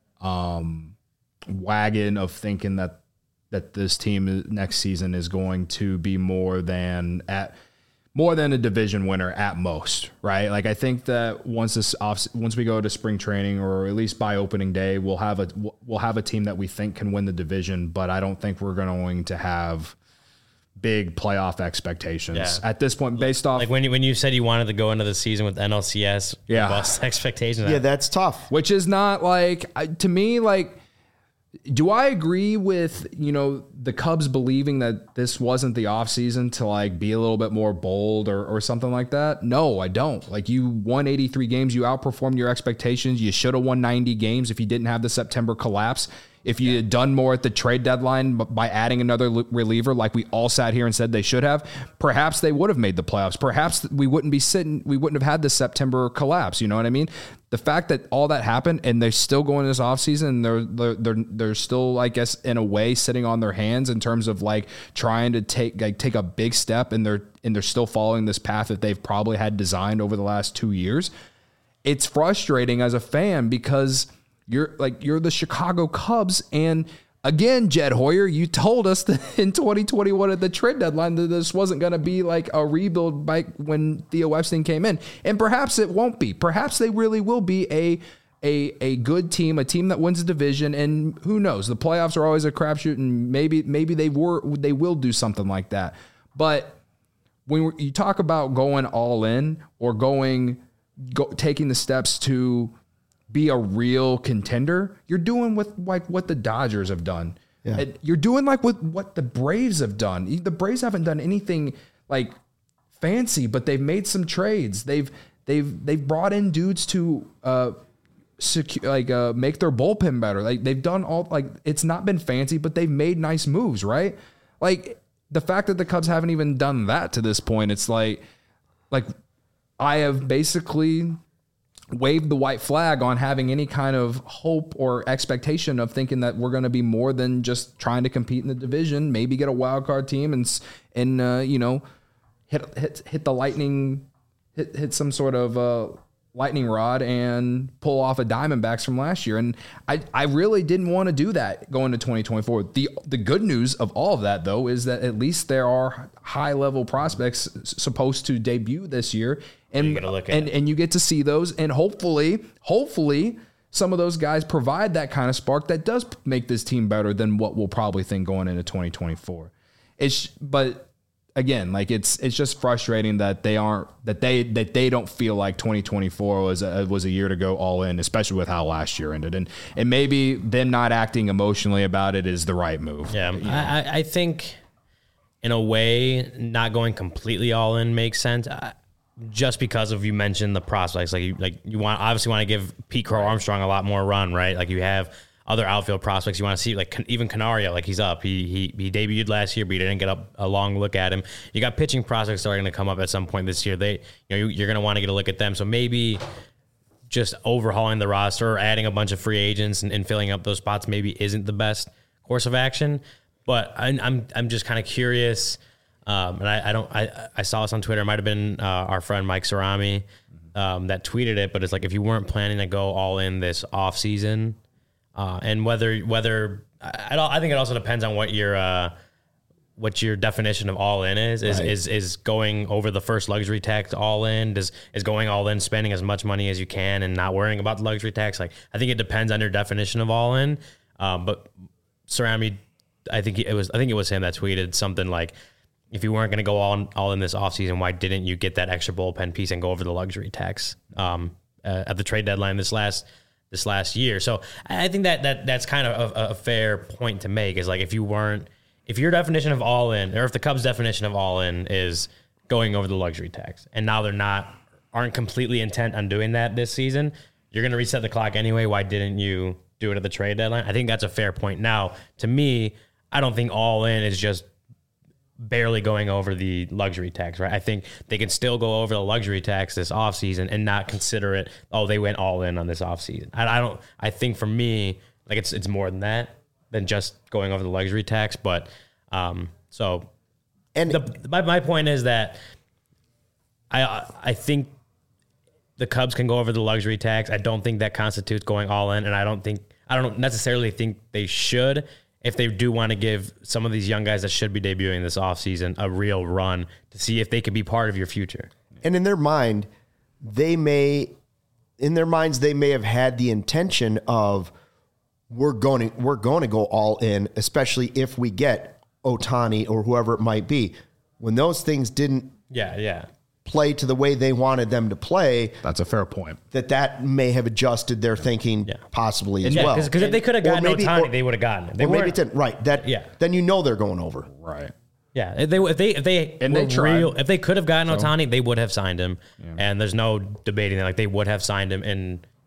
wagon of thinking that this team next season is going to be more than a division winner at most, right? I think that once we go to spring training, or at least by opening day, we'll have a team that we think can win the division, but I don't think we're going to have big playoff expectations at this point based off when you said you wanted to go into the season with NLCS bust expectations. Yeah, that's tough. Which is not to me, do I agree with, the Cubs believing that this wasn't the offseason to be a little bit more bold or something like that? No, I don't. You won 83 games. You outperformed your expectations. You should have won 90 games if you didn't have the September collapse. If you had done more at the trade deadline by adding another reliever like we all sat here and said they should have, perhaps they would have made the playoffs. Perhaps we wouldn't have had this September collapse. You know what I mean? The fact that all that happened and they're still going this offseason, they're still, I guess, in a way sitting on their hands in terms of like trying to take a big step, and they're still following this path that they've probably had designed over the last 2 years. It's frustrating as a fan because you're the Chicago Cubs, and again, Jed Hoyer, you told us that in 2021 at the trade deadline that this wasn't going to be like a rebuild by when Theo Epstein came in, and perhaps it won't be. Perhaps they really will be a good team, a team that wins the division, and who knows? The playoffs are always a crapshoot, and maybe they will do something like that. But when you talk about going all in or taking the steps to be a real contender, you're doing with like what the Dodgers have done. Yeah. You're doing like with what the Braves have done. The Braves haven't done anything like fancy, but they've made some trades. They've brought in dudes to make their bullpen better. Like they've done all, like, it's not been fancy, but they've made nice moves, right? Like the fact that the Cubs haven't even done that to this point, it's like I have basically waved the white flag on having any kind of hope or expectation of thinking that we're going to be more than just trying to compete in the division, maybe get a wild card team and hit the lightning, hit some sort of lightning rod and pull off a Diamondbacks from last year. And I really didn't want to do that going to 2024. The good news of all of that, though, is that at least there are high level prospects supposed to debut this year. And you get to see those, and hopefully some of those guys provide that kind of spark that does make this team better than what we'll probably think going into 2024. But again, like it's just frustrating that they don't feel like 2024 was a year to go all in, especially with how last year ended, and maybe them not acting emotionally about it is the right move. Yeah, I think in a way not going completely all in makes sense. Just because of, you mentioned the prospects, you obviously want to give Pete Crow Armstrong a lot more run, right? Like you have other outfield prospects you want to see, like even Canario, like he's up. He debuted last year, but you didn't get a long look at him. You got pitching prospects that are going to come up at some point this year. You're going to want to get a look at them. So maybe just overhauling the roster or adding a bunch of free agents and filling up those spots maybe isn't the best course of action. But I'm just kind of curious. And I saw this on Twitter. It might have been our friend Mike Cerami that tweeted it, but it's like if you weren't planning to go all in this off season, and whether I think it also depends on what your definition of all in is. Right. Is going over the first luxury tax all in? Is going all in spending as much money as you can and not worrying about the luxury tax? Like I think it depends on your definition of all in. But Cerami, I think it was him that tweeted something like, if you weren't going to go all in this offseason, why didn't you get that extra bullpen piece and go over the luxury tax at the trade deadline this last year? So I think that's kind of a fair point to make, is like if your definition of all in, or if the Cubs' definition of all in is going over the luxury tax, and now aren't completely intent on doing that this season, you're going to reset the clock anyway. Why didn't you do it at the trade deadline? I think that's a fair point. Now, to me, I don't think all in is just barely going over the luxury tax, right? I think they can still go over the luxury tax this offseason and not consider it, they went all in on this offseason. I think for me, like it's more than that, than just going over the luxury tax. But my point is that I think the Cubs can go over the luxury tax. I don't think that constitutes going all in, and I don't necessarily think they should, if they do want to give some of these young guys that should be debuting this offseason a real run to see if they could be part of your future. And in their mind, they may have had the intention of we're going to go all in, especially if we get Ohtani or whoever it might be. When those things didn't play to the way they wanted them to play. That's a fair point. That may have adjusted their thinking possibly as well. Because if they could have gotten Ohtani, they would have gotten it. Maybe it didn't. Right. Then you know they're going over. Right. Yeah. If they could have gotten Ohtani, they would have signed him. Yeah. And there's no debating that. Like they would have signed him, and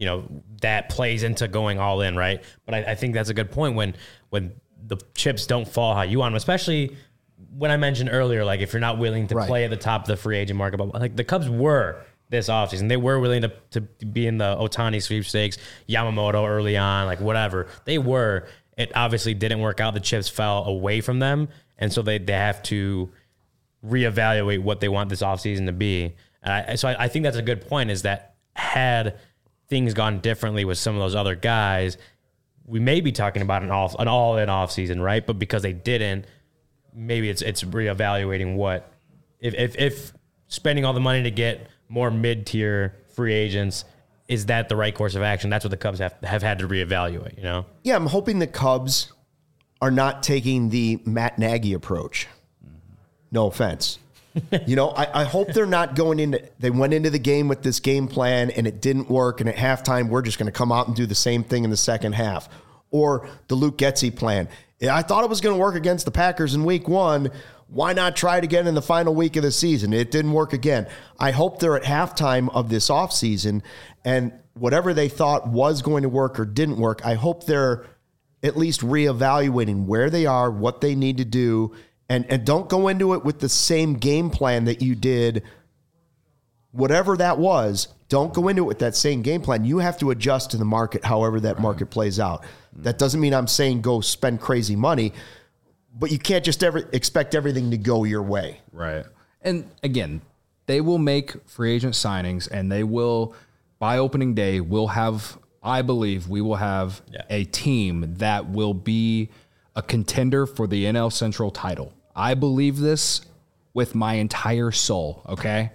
that plays into going all in, right? But I think that's a good point when the chips don't fall how you want them, especially when I mentioned earlier, like if you're not willing to play at the top of the free agent market, but like the Cubs were this offseason. They were willing to be in the Ohtani sweepstakes, Yamamoto early on, like whatever. They were. It obviously didn't work out. The chips fell away from them, and so they have to reevaluate what they want this offseason to be. So I think that's a good point, is that had things gone differently with some of those other guys, we may be talking about an all-in offseason, right? But because they didn't, maybe it's reevaluating what if spending all the money to get more mid-tier free agents, is that the right course of action? That's what the Cubs have had to reevaluate, Yeah, I'm hoping the Cubs are not taking the Matt Nagy approach. No offense. I hope they're not they went into the game with this game plan and it didn't work, and at halftime we're just going to come out and do the same thing in the second half. Or the Luke Getsy plan. I thought it was going to work against the Packers in week 1. Why not try it again in the final week of the season? It didn't work again. I hope they're at halftime of this offseason, and whatever they thought was going to work or didn't work, I hope they're at least reevaluating where they are, what they need to do, and don't go into it with the same game plan that you did, whatever that was. Don't go into it with that same game plan. You have to adjust to the market however that market plays out. That doesn't mean I'm saying go spend crazy money, but you can't just expect everything to go your way. Right. And again, they will make free agent signings, and they will, by opening day, I believe we will have a team that will be a contender for the NL Central title. I believe this with my entire soul, okay?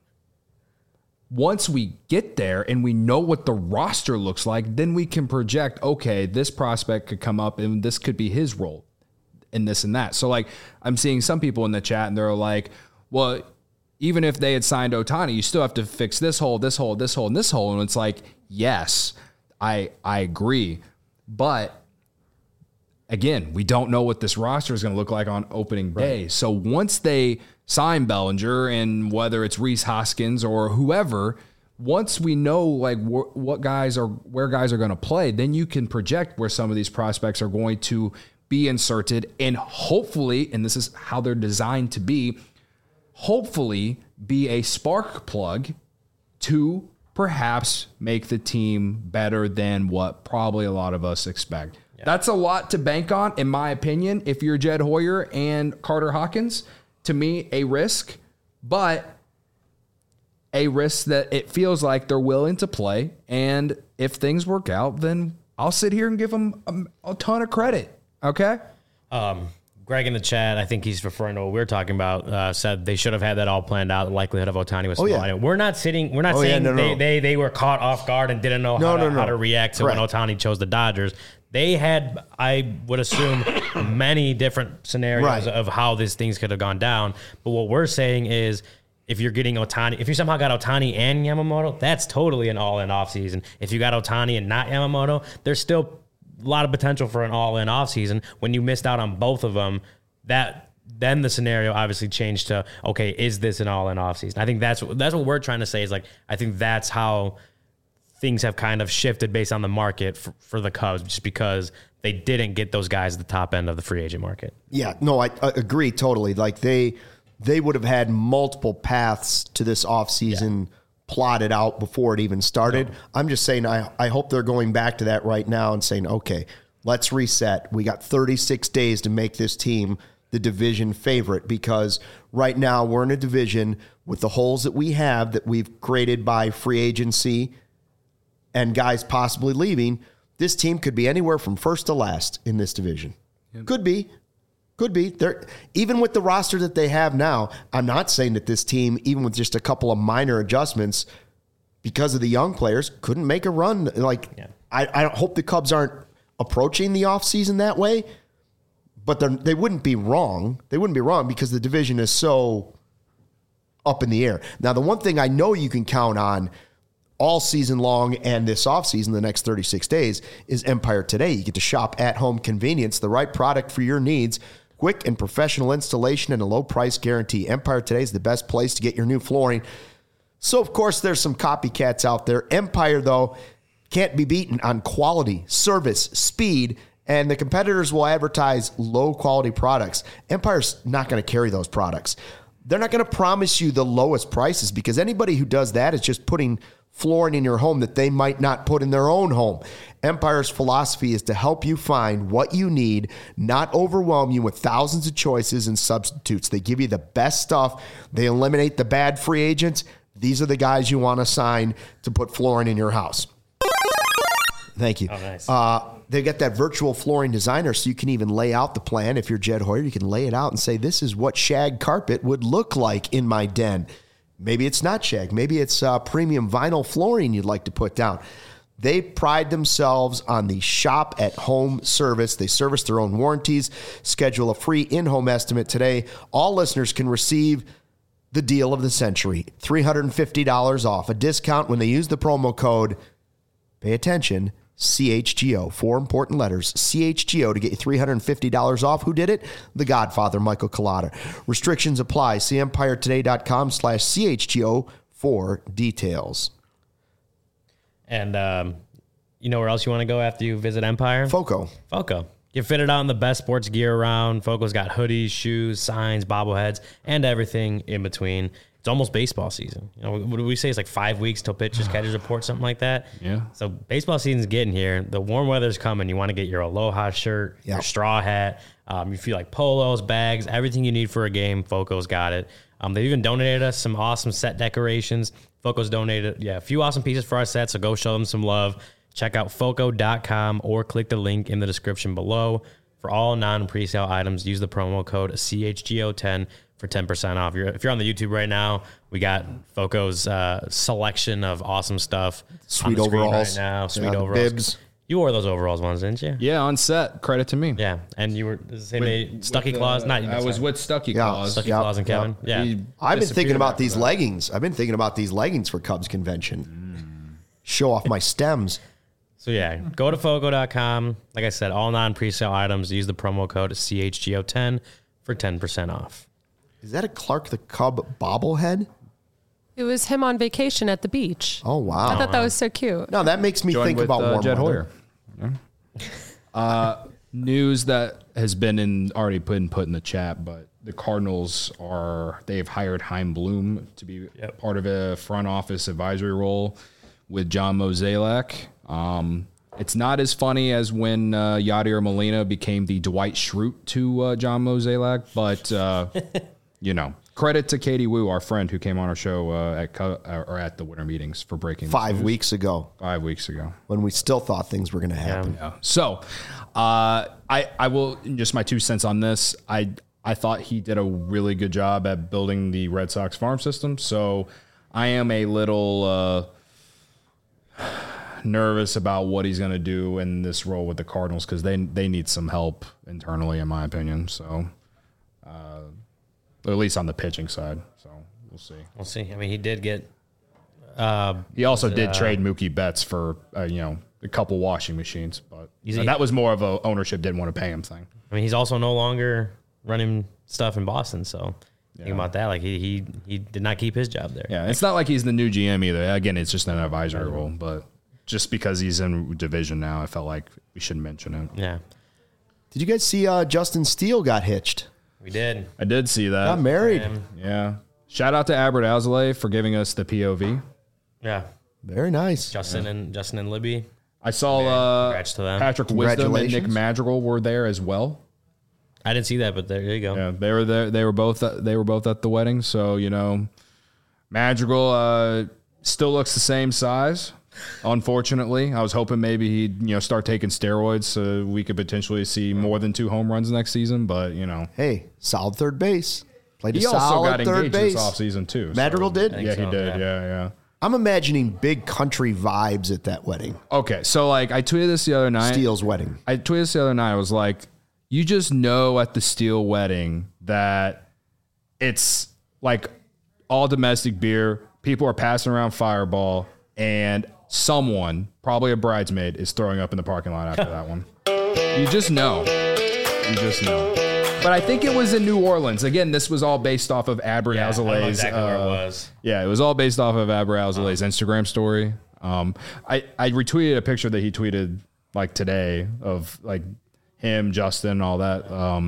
Once we get there and we know what the roster looks like, then we can project, okay, this prospect could come up and this could be his role in this and that. So, like, I'm seeing some people in the chat and they're like, well, even if they had signed Ohtani, you still have to fix this hole, this hole, this hole, and this hole. And it's like, yes, I agree. But again, we don't know what this roster is going to look like on opening day. Right. So once they sign Bellinger, and whether it's Rhys Hoskins or whoever, once we know like where guys are going to play, then you can project where some of these prospects are going to be inserted, and hopefully, and this is how they're designed to be, hopefully be a spark plug to perhaps make the team better than what probably a lot of us expect. Yeah. That's a lot to bank on, in my opinion. If you're Jed Hoyer and Carter Hawkins, to me, a risk, but a risk that it feels like they're willing to play. And if things work out, then I'll sit here and give them a ton of credit. Okay? Greg in the chat, I think he's referring to what we're talking about, said they should have had that all planned out. The likelihood of Ohtani was small. Yeah. We're not saying they were caught off guard and didn't know how to react to when Ohtani chose the Dodgers. They had, I would assume, many different scenarios of how these things could have gone down. But what we're saying is, if you're getting Ohtani, if you somehow got Ohtani and Yamamoto, that's totally an all-in offseason. If you got Ohtani and not Yamamoto, there's still a lot of potential for an all-in offseason. When you missed out on both of them, then the scenario obviously changed to, okay, is this an all-in offseason? I think that's what we're trying to say, is like, I think that's how things have kind of shifted based on the market for the Cubs, just because they didn't get those guys at the top end of the free agent market. Yeah, no, I agree totally. Like they would have had multiple paths to this offseason plotted out before it even started. No. I'm just saying I hope they're going back to that right now and saying, okay, let's reset. We got 36 days to make this team the division favorite, because right now we're in a division with the holes that we have that we've created by free agency and guys possibly leaving. This team could be anywhere from first to last in this division. Yep. Could be. They're, even with the roster that they have now, I'm not saying that this team, even with just a couple of minor adjustments because of the young players, couldn't make a run. I hope the Cubs aren't approaching the offseason that way, but they wouldn't be wrong. They wouldn't be wrong because the division is so up in the air. Now, the one thing I know you can count on all season long and this offseason, the next 36 days, is Empire Today. You get to shop at home convenience, the right product for your needs, quick and professional installation, and a low price guarantee. Empire Today is the best place to get your new flooring. So, of course, there's some copycats out there. Empire, though, can't be beaten on quality, service, speed, and the competitors will advertise low-quality products. Empire's not going to carry those products. They're not going to promise you the lowest prices because anybody who does that is just putting flooring in your home that they might not put in their own home. Empire's philosophy is to help you find what you need, not overwhelm you with thousands of choices and substitutes. They give you the best stuff. They eliminate the bad free agents. These are the guys you want to sign to put flooring in your house. Thank you. Oh, nice. They got that virtual flooring designer, so you can even lay out the plan. If you're Jed Hoyer, you can lay it out and say, this is what shag carpet would look like in my den. Maybe it's not shag. Maybe it's premium vinyl flooring you'd like to put down. They pride themselves on the shop-at-home service. They service their own warranties. Schedule a free in-home estimate today. All listeners can receive the deal of the century, $350 off, a discount when they use the promo code, pay attention, CHGO, 4 important letters, CHGO, to get you $350 off. Who did it? The Godfather, Michael Collada. Restrictions apply. See EmpireToday.com/CHGO for details. And you know where else you want to go after you visit Empire? Foco. Get fitted out in the best sports gear around. Foco's got hoodies, shoes, signs, bobbleheads, and everything in between. It's almost baseball season. You know, what do we say? It's like 5 weeks till pitchers, catchers report, something like that. Yeah. So baseball season's getting here. The warm weather's coming. You want to get your Aloha shirt, your straw hat. You feel like polos, bags, everything you need for a game. Foco's got it. They've even donated us some awesome set decorations. Foco's donated, a few awesome pieces for our set, so go show them some love. Check out Foco.com or click the link in the description below. For all non-presale items, use the promo code CHGO10 for 10% off. If you're on the YouTube right now, we got Foco's selection of awesome stuff. Sweet overalls. Right now. Sweet overalls. Bibs. You wore those overalls ones, didn't you? Yeah, on set. Credit to me. Yeah, and you were the same day, Stucky Claus. Not you. I was with Stucky Claus. Stucky Claus and Kevin. Yeah. I've been thinking about these leggings. I've been thinking about these leggings for Cubs convention. Show off my stems. So yeah, go to Foco.com. Like I said, all non-presale items, use the promo code CHGO10 for 10% off. Is that a Clark the Cub bobblehead? It was him on vacation at the beach. Oh, wow. I thought that was so cute. No, that makes me think about warm Jed weather. Hoyer. News that has been already been put in the chat, but the Cardinals they've hired Chaim Bloom to be part of a front office advisory role with John Mozeliak. It's not as funny as when Yadier Molina became the Dwight Schrute to John Mozeliak, but credit to Katie Wu, our friend who came on our show at the winter meetings for breaking 5 weeks ago. 5 weeks ago, when we still thought things were going to happen. Yeah. So, I will just my 2 cents on this. I thought he did a really good job at building the Red Sox farm system. So, I am a little nervous about what he's going to do in this role with the Cardinals because they need some help internally, in my opinion. So, at least on the pitching side. So we'll see. We'll see. I mean, he did get. He also did trade Mookie Betts for a couple washing machines, but that was more of a ownership didn't want to pay him thing. I mean, he's also no longer running stuff in Boston, so. Think about that. Like he did not keep his job there. Yeah, it's not like he's the new GM either. Again, it's just an advisory role, but just because he's in division now, I felt like we should mention it. Yeah. Did you guys see Justin Steele got hitched? We did. I did see that. Got married. Yeah. Shout out to Albert Alzolay for giving us the POV. Yeah. Very nice. Justin and Libby. I saw congrats to them. Patrick Wisdom and Nick Madrigal were there as well. I didn't see that, but there you go. Yeah, they were there. They were both at the wedding. So Madrigal still looks the same size. Unfortunately, I was hoping maybe he'd start taking steroids so we could potentially see more than 2 home runs next season. But hey, solid third base. Played he a also solid got third engaged base this offseason too. Madrigal did. Yeah, he did. Yeah. I'm imagining big country vibes at that wedding. Okay, so I tweeted this the other night. Steele's wedding. I tweeted this the other night. I was like, you just know at the Steele wedding that it's like all domestic beer. People are passing around Fireball, and someone, probably a bridesmaid, is throwing up in the parking lot after that one. You just know. But I think it was in New Orleans. Again, this was all based off of Albert Alzolay's. Exactly where it was. Yeah, it was all based off of Albert Alzolay's Instagram story. I retweeted a picture that he tweeted like today of like him, Justin, all that.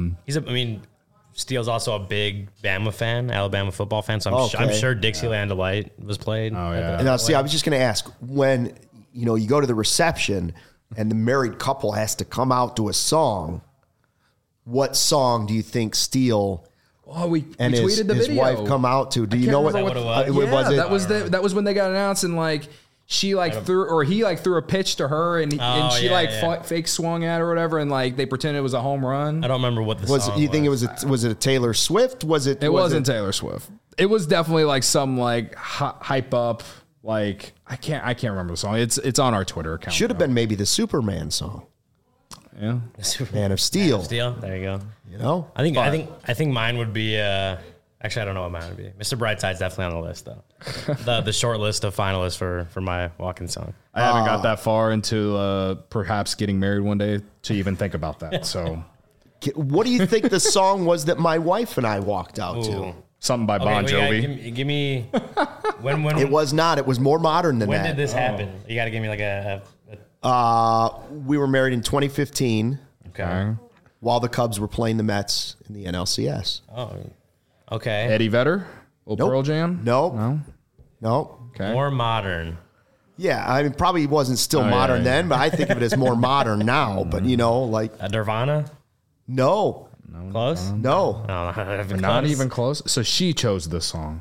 Steele's also a big Bama fan, Alabama football fan. So I'm sure Dixieland Delight was played. Oh yeah. Now, see, I was just going to ask, when you go to the reception and the married couple has to come out to a song, what song do you think Steele we and tweeted the his video. wife come out to? Do you know what it was? was it? That was when they got announced, and like she threw a pitch to her, and she fake swung at her or whatever, and like they pretended it was a home run. I don't remember what the song was. You think was it a Taylor Swift? It wasn't Taylor Swift. It was definitely like some like hype up. Like I can't remember the song. It's on our Twitter account. Should have been maybe the Superman song. Yeah, Man of Steel. There you go. I think mine would be. Actually, I don't know what mine would be. Mr. Brightside's definitely on the list though. the short list of finalists for my walk-in song. I haven't got that far into perhaps getting married one day to even think about that. So, what do you think the song was that my wife and I walked out to? Something by Bon Jovi. Give me when It was not. It was more modern than that. When did this happen? You got to give me like a we were married in 2015. Okay. While the Cubs were playing the Mets in the NLCS. Oh, okay. Eddie Vedder? Pearl Jam? No. Okay. More modern. Yeah, I mean, probably wasn't still modern then, but I think of it as more modern now. But, like... Nirvana? No. Close? No. Not even close? So she chose this song.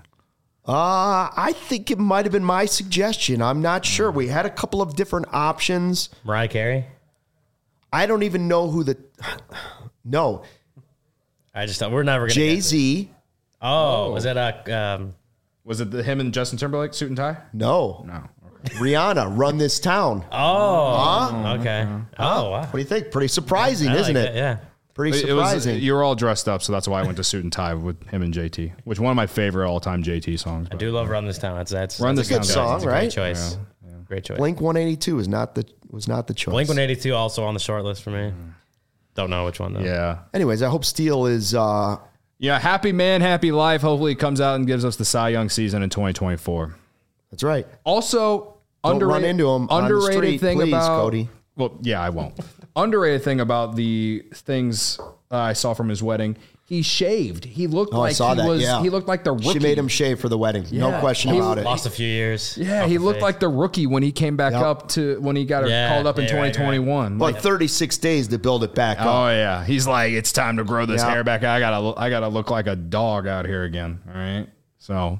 I think it might have been my suggestion. I'm not sure. We had a couple of different options. Mariah Carey? I don't even know who the... No. I just thought we're never going to Jay-Z. Oh, was that Was it him and Justin Timberlake, Suit and Tie? No. Okay. Rihanna, Run This Town. Oh, okay. Oh, wow. What do you think? Pretty surprising, isn't it? Yeah. Pretty surprising. You were all dressed up, so that's why I went to Suit and Tie with him and JT, which is one of my favorite all-time JT songs. I do love Run This Town. That's a good song, right? Great choice. Yeah. Great choice. Blink 182 was not the choice. Blink 182 also on the short list for me. Don't know which one though. Yeah. Anyways, I hope Steele is. Happy man, happy life. Hopefully, he comes out and gives us the Cy Young season in 2024. That's right. Also, don't run into him. Underrated on the street, thing please, about Cody. Well, yeah, I won't. Underrated thing about the things I saw from his wedding. He shaved. He looked like he looked like the rookie. She made him shave for the wedding. Yeah. No question about it. Lost a few years. Yeah, he looked like the rookie when he came back up to when he got called up in 2021. But 36 days to build it back up. Oh yeah, he's like, it's time to grow this hair back. I gotta look like a dog out here again. All right, so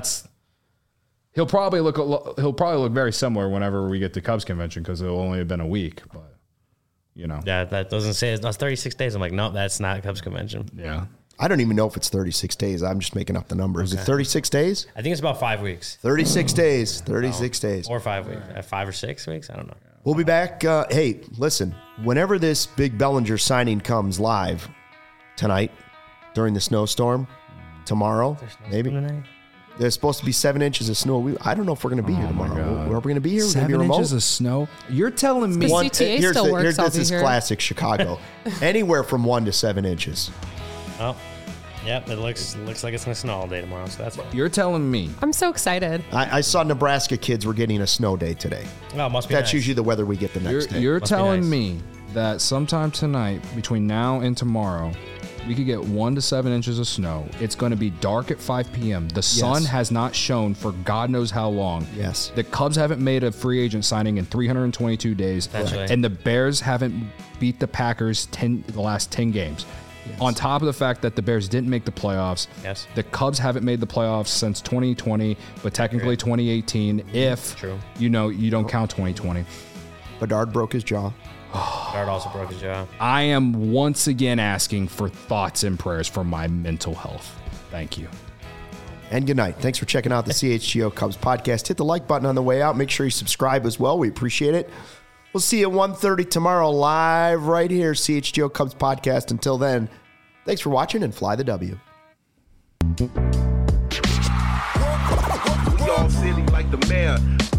he'll probably look very similar whenever we get to Cubs convention because it'll only have been a week, but. Yeah, that doesn't say it's 36 days. I'm like, no, that's not Cubs convention. Yeah. I don't even know if it's 36 days. I'm just making up the number. Is it 36 days? I think it's about 5 weeks. 36 days. 36 days. Or 5 weeks. 5 or 6 weeks? I don't know. We'll be back. Hey, listen, whenever this big Bellinger signing comes live tonight during the snowstorm, tomorrow, maybe. Tonight? There's supposed to be 7 inches of snow. I don't know if we're going to be here tomorrow. Are we going to be here? 7 inches of snow? You're telling me. CTA still works. This is classic Chicago. Anywhere from 1 to 7 inches. Oh, yep. It looks like it's going to snow all day tomorrow. So that's fine. You're telling me. I'm so excited. I saw Nebraska kids were getting a snow day today. Oh, must be That's nice. usually the weather we get the next day. You're telling me that sometime tonight, between now and tomorrow, we could get 1 to 7 inches of snow. It's going to be dark at 5 p.m. The sun has not shone for God knows how long. Yes. The Cubs haven't made a free agent signing in 322 days. Right. And the Bears haven't beat the Packers the last 10 games. Yes. On top of the fact that the Bears didn't make the playoffs. Yes. The Cubs haven't made the playoffs since 2020, but technically 2018 if you don't count 2020. Bedard broke his jaw. Bedard also broke his jaw. I am once again asking for thoughts and prayers for my mental health. Thank you. And good night. Thanks for checking out the CHGO Cubs podcast. Hit the like button on the way out. Make sure you subscribe as well. We appreciate it. We'll see you at 1:30 tomorrow live right here, CHGO Cubs podcast. Until then, thanks for watching and fly the W. We all silly like the mayor.